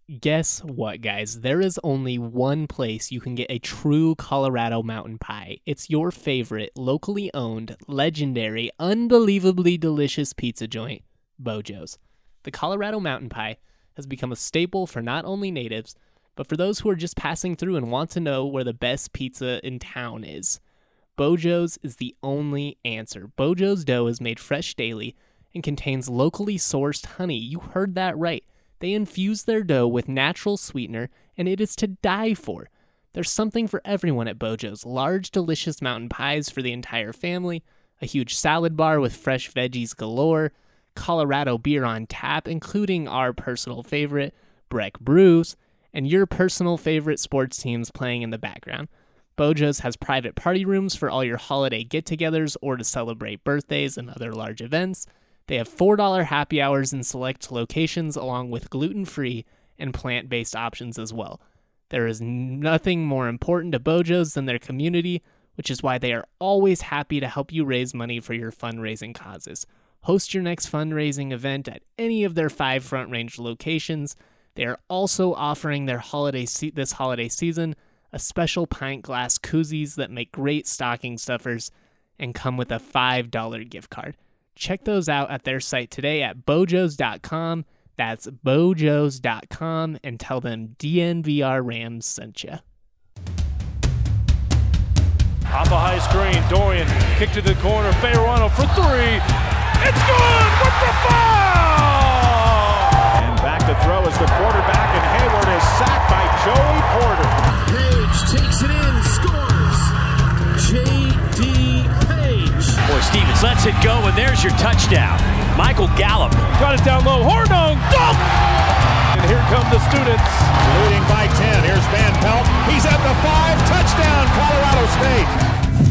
Guess what, guys? There is only one place you can get a true Colorado mountain pie. It's your favorite, locally owned, legendary, unbelievably delicious pizza joint, Bojo's. The Colorado mountain pie has become a staple for not only natives, but for those who are just passing through and want to know where the best pizza in town is. Bojo's is the only answer. Bojo's dough is made fresh daily and contains locally sourced honey. You heard that right. They infuse their dough with natural sweetener, and it is to die for. There's something for everyone at Bojo's. Large, delicious mountain pies for the entire family, a huge salad bar with fresh veggies galore, Colorado beer on tap, including our personal favorite, Breck Brews, and your personal favorite sports teams playing in the background. Bojo's has private party rooms for all your holiday get-togethers or to celebrate birthdays and other large events. They have $4 happy hours in select locations along with gluten-free and plant-based options as well. There is nothing more important to Bojo's than their community, which is why they are always happy to help you raise money for your fundraising causes. Host your next fundraising event at any of their 5 Front Range locations. They are also offering their this holiday season a special pint glass koozies that make great stocking stuffers and come with a $5 gift card. Check those out at their site today at bojos.com. That's bojos.com, and tell them DNVR Rams sent you. Off a high screen, Dorian kick to the corner, Fayerano for 3. It's good with the foul! And back to throw is the quarterback, and Hayward is sacked by Joey Porter. Page takes it in, scores. J.D. Page. Boy, Stevens lets it go, and there's your touchdown. Michael Gallup. Got it down low, Hornung, dunk! And here come the students. Leading by 10, here's Van Pelt. He's at the 5, touchdown, Colorado State.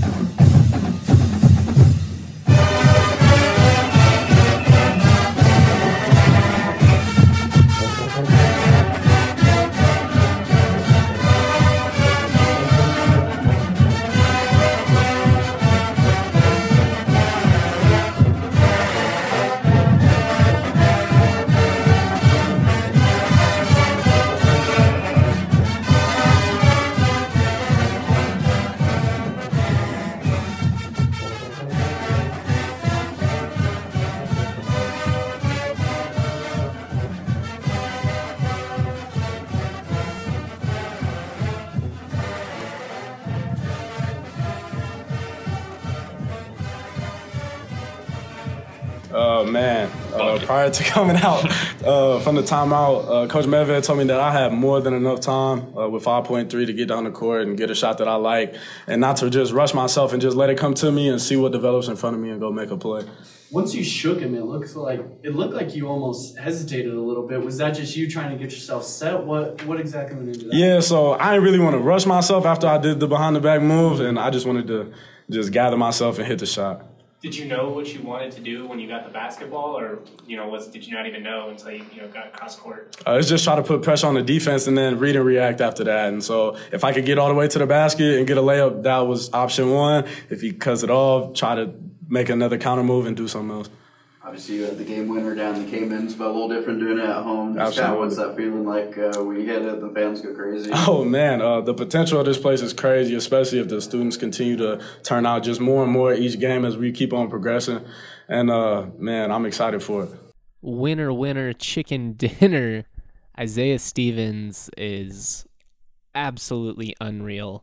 Prior to coming out from the timeout, Coach Medved told me that I had more than enough time with 5.3 to get down the court and get a shot that I like, and not to just rush myself and just let it come to me and see what develops in front of me and go make a play. Once you shook him, it looked like you almost hesitated a little bit. Was that just you trying to get yourself set? What exactly went into that? Yeah, so I didn't really want to rush myself after I did the behind-the-back move, and I just wanted to just gather myself and hit the shot. Did you know what you wanted to do when you got the basketball, or did you not even know until you got across court? It's just try to put pressure on the defense and then read and react after that. And so if I could get all the way to the basket and get a layup, that was option one. If he cuts it off, try to make another counter move and do something else. Obviously, you had the game winner down the Caymans, but a little different doing it at home. Just kind of what's that feeling like when you hit it, the fans go crazy? Oh, man, the potential of this place is crazy, especially if the students continue to turn out just more and more each game as we keep on progressing. And, man, I'm excited for it. Winner, winner, chicken dinner. Isaiah Stevens is absolutely unreal.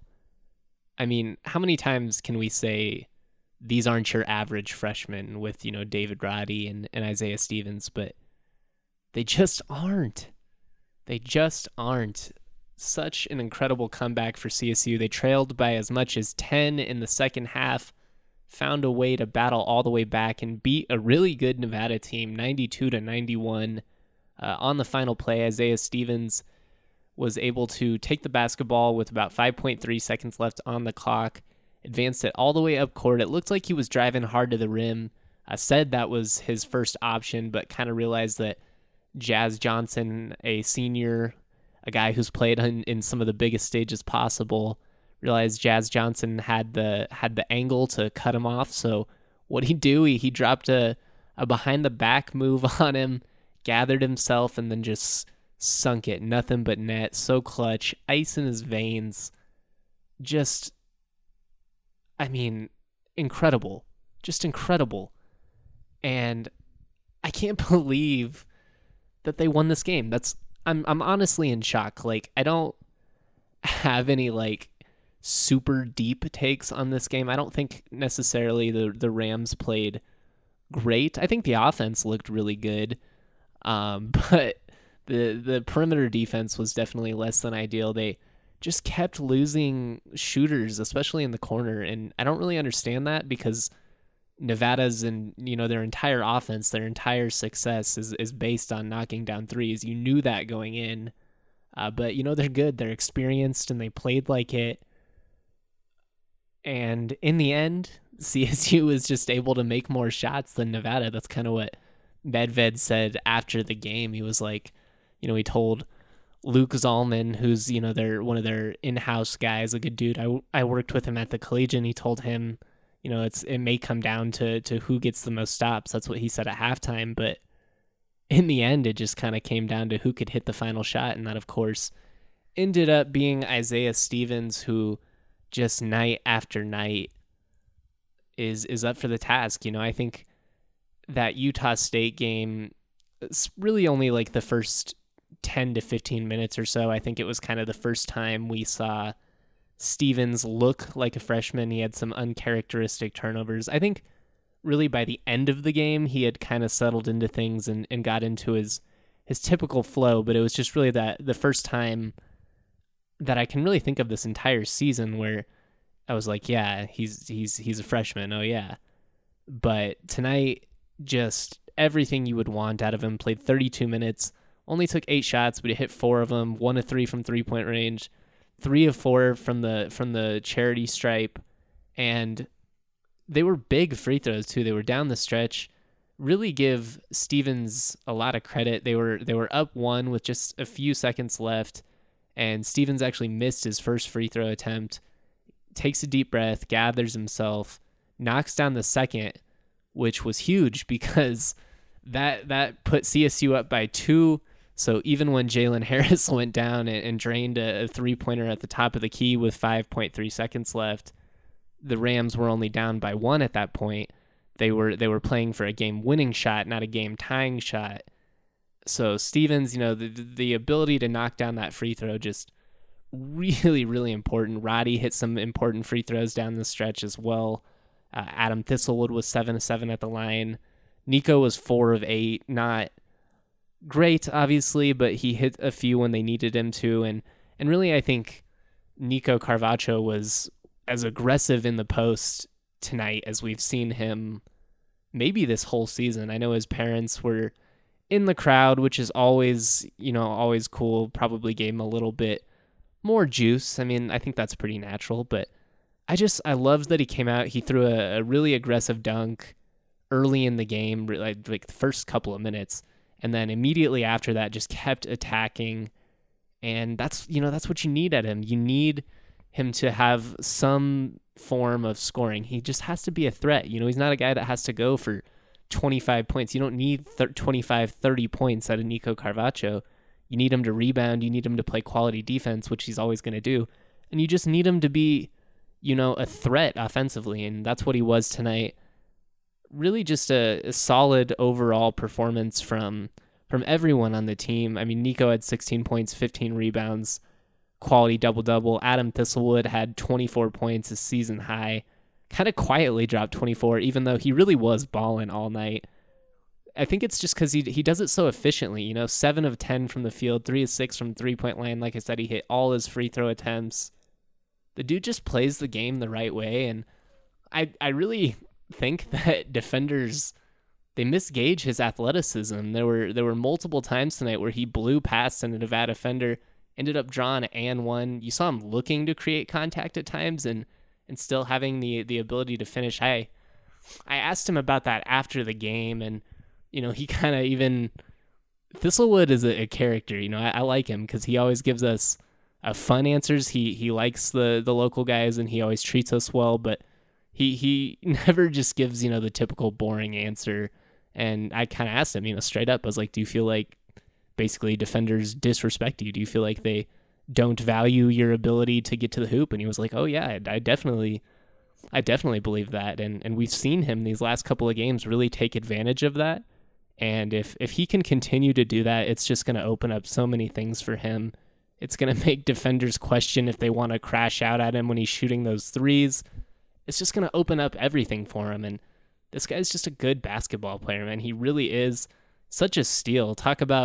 I mean, how many times can we say these aren't your average freshmen with, David Roddy and Isaiah Stevens, but they just aren't. They just aren't. Such an incredible comeback for CSU. They trailed by as much as 10 in the second half, found a way to battle all the way back and beat a really good Nevada team, 92-91. On the final play, Isaiah Stevens was able to take the basketball with about 5.3 seconds left on the clock, advanced it all the way up court. It looked like he was driving hard to the rim. I said that was his first option, but kind of realized that Jazz Johnson, a senior, a guy who's played in some of the biggest stages possible, realized Jazz Johnson had the angle to cut him off. So what'd he do? He dropped a behind the back move on him, gathered himself, and then just sunk it, nothing but net, so clutch, ice in his veins. Just, I mean, incredible. Just incredible. And I can't believe that they won this game. I'm honestly in shock. Like, I don't have any like super deep takes on this game. I don't think necessarily the Rams played great. I think the offense looked really good. But the perimeter defense was definitely less than ideal. They just kept losing shooters, especially in the corner, and I don't really understand that because Nevada's and their entire offense, their entire success is based on knocking down threes. You knew that going in, but they're good, they're experienced, and they played like it. And in the end, CSU was just able to make more shots than Nevada. That's kind of what Medved said after the game. He was like, he told Luke Zalman, who's one of their in-house guys, a good dude. I worked with him at the Collegian. He told him, it may come down to who gets the most stops. That's what he said at halftime. But in the end, it just kind of came down to who could hit the final shot. And that, of course, ended up being Isaiah Stevens, who just night after night is up for the task. I think that Utah State game, it's really only like the first 10 to 15 minutes or so. I think it was kind of the first time we saw Stevens look like a freshman. He had some uncharacteristic turnovers. I think really by the end of the game, he had kind of settled into things and got into his typical flow, but it was just really the first time that I can really think of this entire season where I was like, yeah, he's a freshman. Oh yeah. But tonight, just everything you would want out of him. Played 32 minutes, only took 8 shots, but he hit 4 of them, 1 of 3 from 3-point range, 3 of 4 from the charity stripe, and they were big free throws too. They were down the stretch. Really give Stevens a lot of credit. They were up 1 with just a few seconds left, and Stevens actually missed his first free throw attempt. Takes a deep breath, gathers himself, knocks down the second, which was huge because that put CSU up by 2. So even when Jalen Harris went down and drained a 3-pointer at the top of the key with 5.3 seconds left, the Rams were only down by 1 at that point. They were playing for a game-winning shot, not a game-tying shot. So Stevens, the ability to knock down that free throw, just really, really important. Roddy hit some important free throws down the stretch as well. Adam Thistlewood was 7 of 7 at the line. Nico was 4 of 8. Not great, obviously, but he hit a few when they needed him to. And really, I think Nico Carvacho was as aggressive in the post tonight as we've seen him maybe this whole season. I know his parents were in the crowd, which is always cool. Probably gave him a little bit more juice. I mean, I think that's pretty natural, but I loved that he came out. He threw a really aggressive dunk early in the game, like the first couple of minutes, and then immediately after that just kept attacking. And that's what you need at him. You need him to have some form of scoring. He just has to be a threat. He's not a guy that has to go for 25 points. You don't need 25, 30 points out of Nico Carvacho. You need him to rebound. You need him to play quality defense, which he's always going to do. And you just need him to be, a threat offensively. And that's what he was tonight. Really just a solid overall performance from everyone on the team. I mean, Nico had 16 points, 15 rebounds, quality double-double. Adam Thistlewood had 24 points, a season high. Kind of quietly dropped 24, even though he really was balling all night. I think it's just because he does it so efficiently. 7 of 10 from the field, 3 of 6 from 3-point line. Like I said, he hit all his free throw attempts. The dude just plays the game the right way, and I really think that defenders, they misgauge his athleticism. There were multiple times tonight where he blew past a Nevada defender, ended up drawing and one. You saw him looking to create contact at times and still having the ability to finish. I asked him about that after the game, and he kind of even Thistlewood is a character. I like him because he always gives us fun answers. He likes the local guys, and he always treats us well, but he never just gives the typical boring answer. And I kind of asked him straight up, I was like, do you feel like basically defenders disrespect you? Do you feel like they don't value your ability to get to the hoop? And he was like, oh yeah, I definitely believe that. And we've seen him these last couple of games really take advantage of that. And if he can continue to do that, it's just going to open up so many things for him. It's going to make defenders question if they want to crash out at him when he's shooting those threes. It's just going to open up everything for him. And this guy's just a good basketball player, man. He really is such a steal.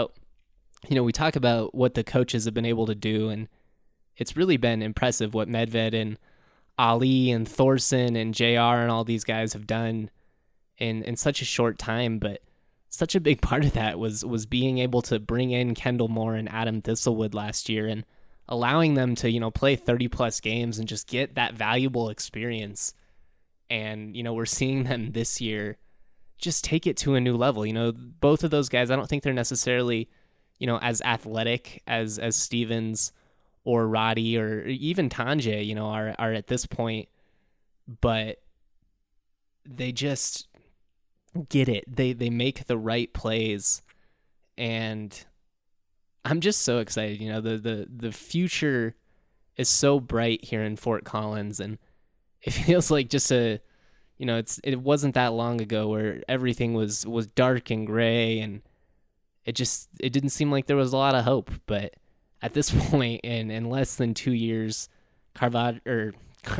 We talk about what the coaches have been able to do, and it's really been impressive what Medved and Ali and Thorson and JR and all these guys have done in such a short time. But such a big part of that was being able to bring in Kendall Moore and Adam Thistlewood last year and allowing them to, play 30-plus games and just get that valuable experience. And, we're seeing them this year just take it to a new level. Both of those guys, I don't think they're necessarily, as athletic as Stevens or Roddy or even Tanje, are at this point, but they just get it. They make the right plays, and I'm just so excited. The future is so bright here in Fort Collins, and it feels like just it wasn't that long ago where everything was dark and gray, and it didn't seem like there was a lot of hope. But at this point, in less than 2 years, Carvacho,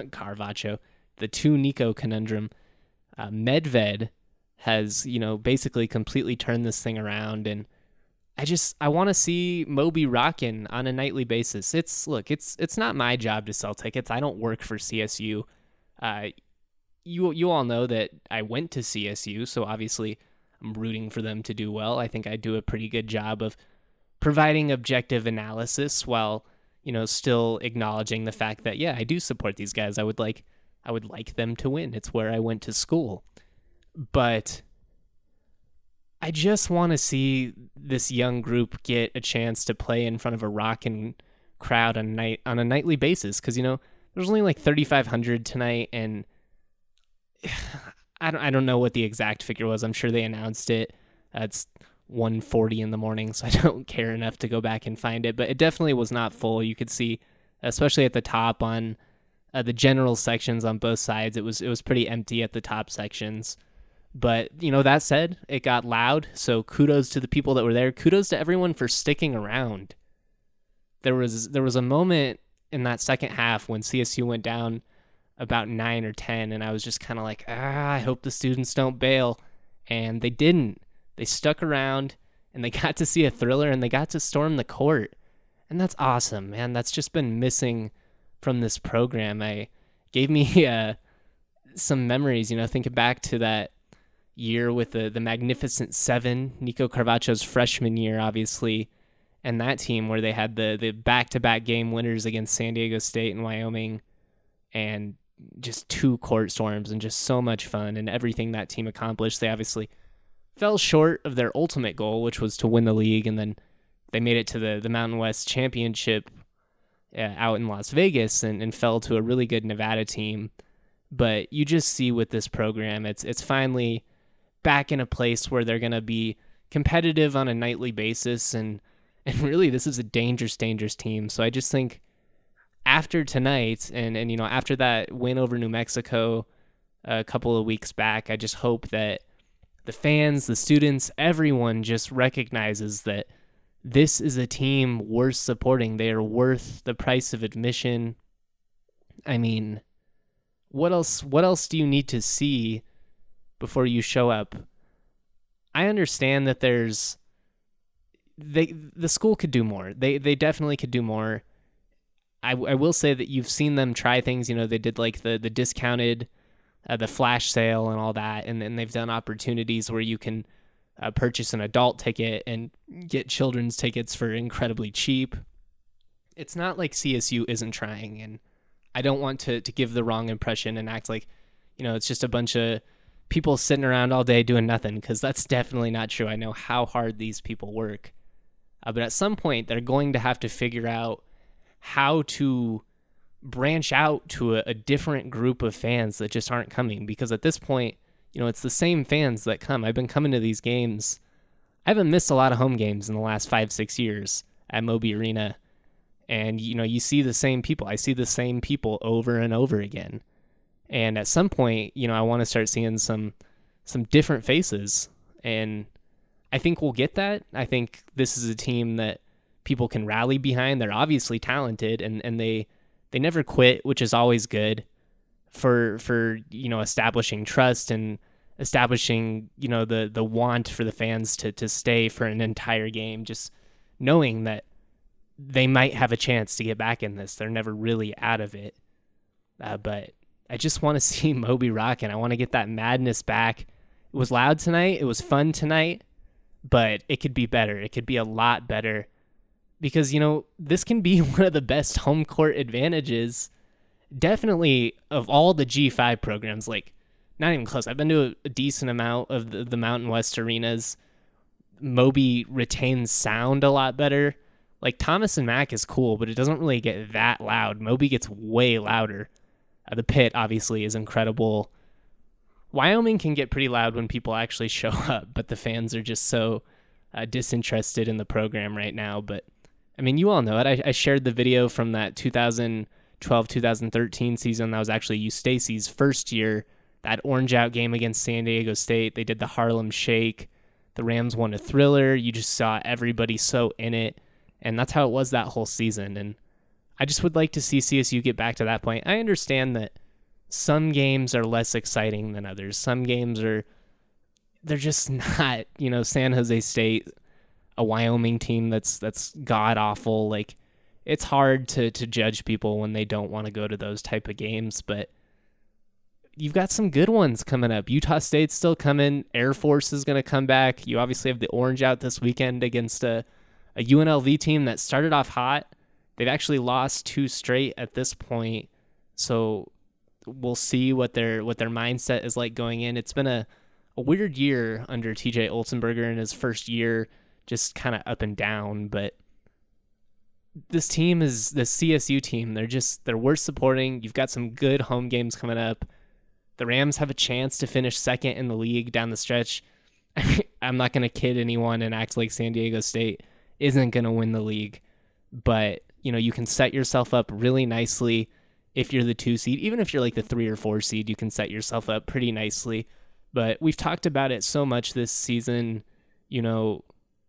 the two Nico conundrum, Medved has, basically completely turned this thing around. And I want to see Moby rocking on a nightly basis. It's not my job to sell tickets. I don't work for CSU. You all know that I went to CSU, so obviously I'm rooting for them to do well. I think I do a pretty good job of providing objective analysis while, still acknowledging the fact that, yeah, I do support these guys. I would like them to win. It's where I went to school. But I just want to see this young group get a chance to play in front of a rocking crowd on a nightly basis. Because, there's only like 3,500 tonight, and I don't know what the exact figure was. I'm sure they announced it. It's 1:40 in the morning, so I don't care enough to go back and find it. But it definitely was not full. You could see, especially at the top on the general sections on both sides, it was pretty empty at the top sections. But, that said, it got loud, so kudos to the people that were there. Kudos to everyone for sticking around. There was a moment in that second half when CSU went down about 9 or 10, and I was just kind of like, I hope the students don't bail. And they didn't. They stuck around, and they got to see a thriller, and they got to storm the court. And that's awesome, man. That's just been missing from this program. Gave me some memories, thinking back to that year with the Magnificent Seven, Nico Carvacho's freshman year, obviously, and that team where they had the back-to-back game winners against San Diego State and Wyoming, and just 2 court storms and just so much fun and everything that team accomplished. They obviously fell short of their ultimate goal, which was to win the league, and then they made it to the Mountain West Championship out in Las Vegas and fell to a really good Nevada team. But you just see with this program, it's finally back in a place where they're going to be competitive on a nightly basis, and really this is a dangerous team. So I just think after tonight and after that win over New Mexico a couple of weeks back, I just hope that the fans, the students, everyone just recognizes that this is a team worth supporting. They are worth the price of admission. I mean, what else do you need to see before you show up? I understand that the school could do more. They definitely could do more. I will say that you've seen them try things. They did like the discounted, the flash sale and all that, and then they've done opportunities where you can purchase an adult ticket and get children's tickets for incredibly cheap. It's not like CSU isn't trying, and I don't want to give the wrong impression and act like, it's just a bunch of people sitting around all day doing nothing, because that's definitely not true. I know how hard these people work. But at some point, they're going to have to figure out how to branch out to a different group of fans that just aren't coming. Because at this point, it's the same fans that come. I've been coming to these games. I haven't missed a lot of home games in the last 5-6 years at Moby Arena. And, you see the same people. I see the same people over and over again. And at some point, I want to start seeing some different faces. And I think we'll get that. I think this is a team that people can rally behind. They're obviously talented, and they never quit, which is always good for establishing trust and establishing, the want for the fans to stay for an entire game, just knowing that they might have a chance to get back in this. They're never really out of it. But I just want to see Moby rocking. I want to get that madness back. It was loud tonight. It was fun tonight, but it could be better. It could be a lot better because, this can be one of the best home court advantages, definitely of all the G5 programs. Like, not even close. I've been to a decent amount of the Mountain West arenas. Moby retains sound a lot better. Like, Thomas and Mack is cool, but it doesn't really get that loud. Moby gets way louder. The pit, obviously, is incredible. Wyoming can get pretty loud when people actually show up, but the fans are just so disinterested in the program right now. But, I mean, you all know it. I shared the video from that 2012-2013 season. That was actually U Stacy's first year. That orange out game against San Diego State. They did the Harlem Shake. The Rams won a thriller. You just saw everybody so in it. And that's how it was that whole season. And I just would like to see CSU get back to that point. I understand that some games are less exciting than others. Some games they're just not, San Jose State, a Wyoming team that's god awful. Like, it's hard to judge people when they don't want to go to those type of games, but you've got some good ones coming up. Utah State's still coming. Air Force is going to come back. You obviously have the orange out this weekend against a UNLV team that started off hot. They've actually lost 2 straight at this point, so we'll see what their mindset is like going in. It's been a weird year under TJ Olsenberger in his first year, just kind of up and down, but this team is the CSU team. They're worth supporting. You've got some good home games coming up. The Rams have a chance to finish second in the league down the stretch. I'm not going to kid anyone and act like San Diego State isn't going to win the league, but you can set yourself up really nicely if you're the 2 seed. Even if you're like the 3 or 4 seed, you can set yourself up pretty nicely. But we've talked about it so much this season. The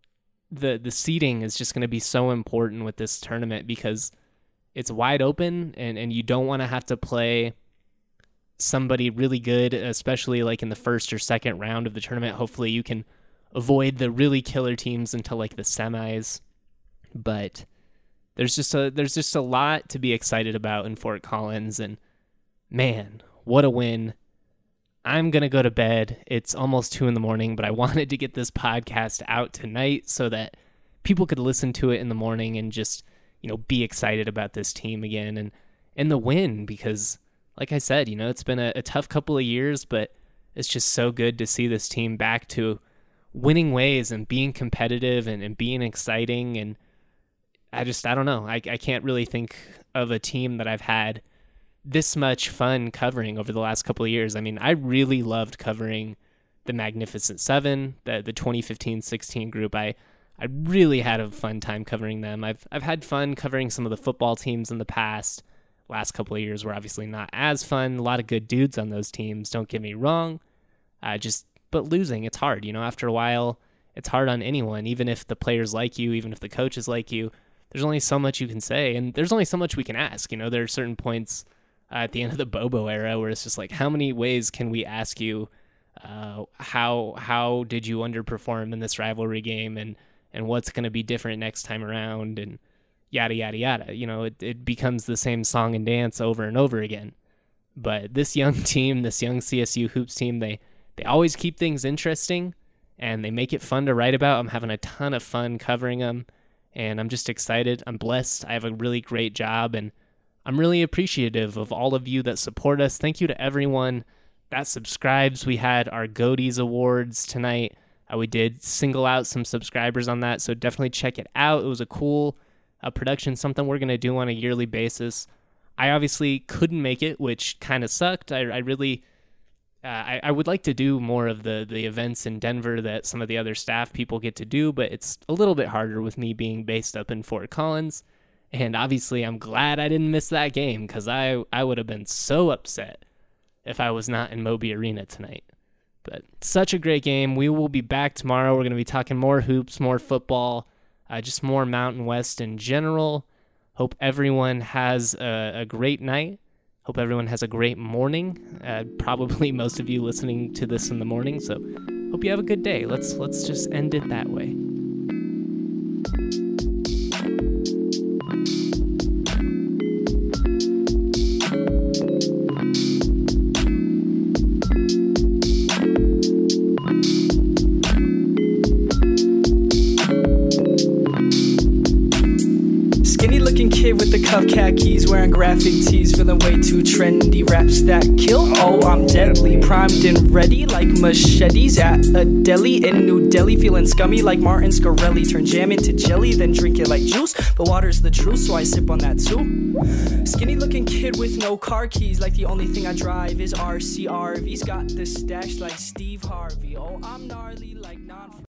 seeding is just going to be so important with this tournament because it's wide open and you don't want to have to play somebody really good, especially like in the first or second round of the tournament. Hopefully you can avoid the really killer teams until like the semis. But there's just a lot to be excited about in Fort Collins, and man, what a win. I'm going to go to bed. It's almost 2 a.m, but I wanted to get this podcast out tonight so that people could listen to it in the morning and just, be excited about this team again and the win, because like I said, it's been a tough couple of years, but it's just so good to see this team back to winning ways and being competitive and being exciting. And I don't know. I can't really think of a team that I've had this much fun covering over the last couple of years. I mean, I really loved covering the Magnificent Seven, the 2015-16 group. I really had a fun time covering them. I've had fun covering some of the football teams in the past. Last couple of years were obviously not as fun. A lot of good dudes on those teams, don't get me wrong. But losing, it's hard. After a while, it's hard on anyone, even if the players like you, even if the coaches like you. There's only so much you can say, and there's only so much we can ask. There are certain points at the end of the Bobo era where it's just like, how many ways can we ask you how did you underperform in this rivalry game, and what's going to be different next time around, and yada, yada, yada. It becomes the same song and dance over and over again. But this young team, this young CSU Hoops team, they always keep things interesting, and they make it fun to write about. I'm having a ton of fun covering them, and I'm just excited. I'm blessed. I have a really great job, and I'm really appreciative of all of you that support us. Thank you to everyone that subscribes. We had our Goaties Awards tonight. We did single out some subscribers on that, so definitely check it out. It was a cool production, something we're going to do on a yearly basis. I obviously couldn't make it, which kind of sucked. I really I would like to do more of the events in Denver that some of the other staff people get to do, but it's a little bit harder with me being based up in Fort Collins. And obviously, I'm glad I didn't miss that game because I would have been so upset if I was not in Moby Arena tonight. But such a great game. We will be back tomorrow. We're going to be talking more hoops, more football, just more Mountain West in general. Hope everyone has a great night. Hope everyone has a great morning. Probably most of you listening to this in the morning, so hope you have a good day. Let's just end it that way. Kid with the cuff khakis, wearing graphic tees, feeling way too trendy. Raps that kill, oh I'm deadly. Primed and ready like machetes at a deli in New Delhi. Feeling scummy like Martin Scarelli. Turn jam into jelly, then drink it like juice. But water's the truth, so I sip on that too. Skinny looking kid with no car keys, like the only thing I drive is RCRV's. Got the stash like Steve Harvey. Oh I'm gnarly like non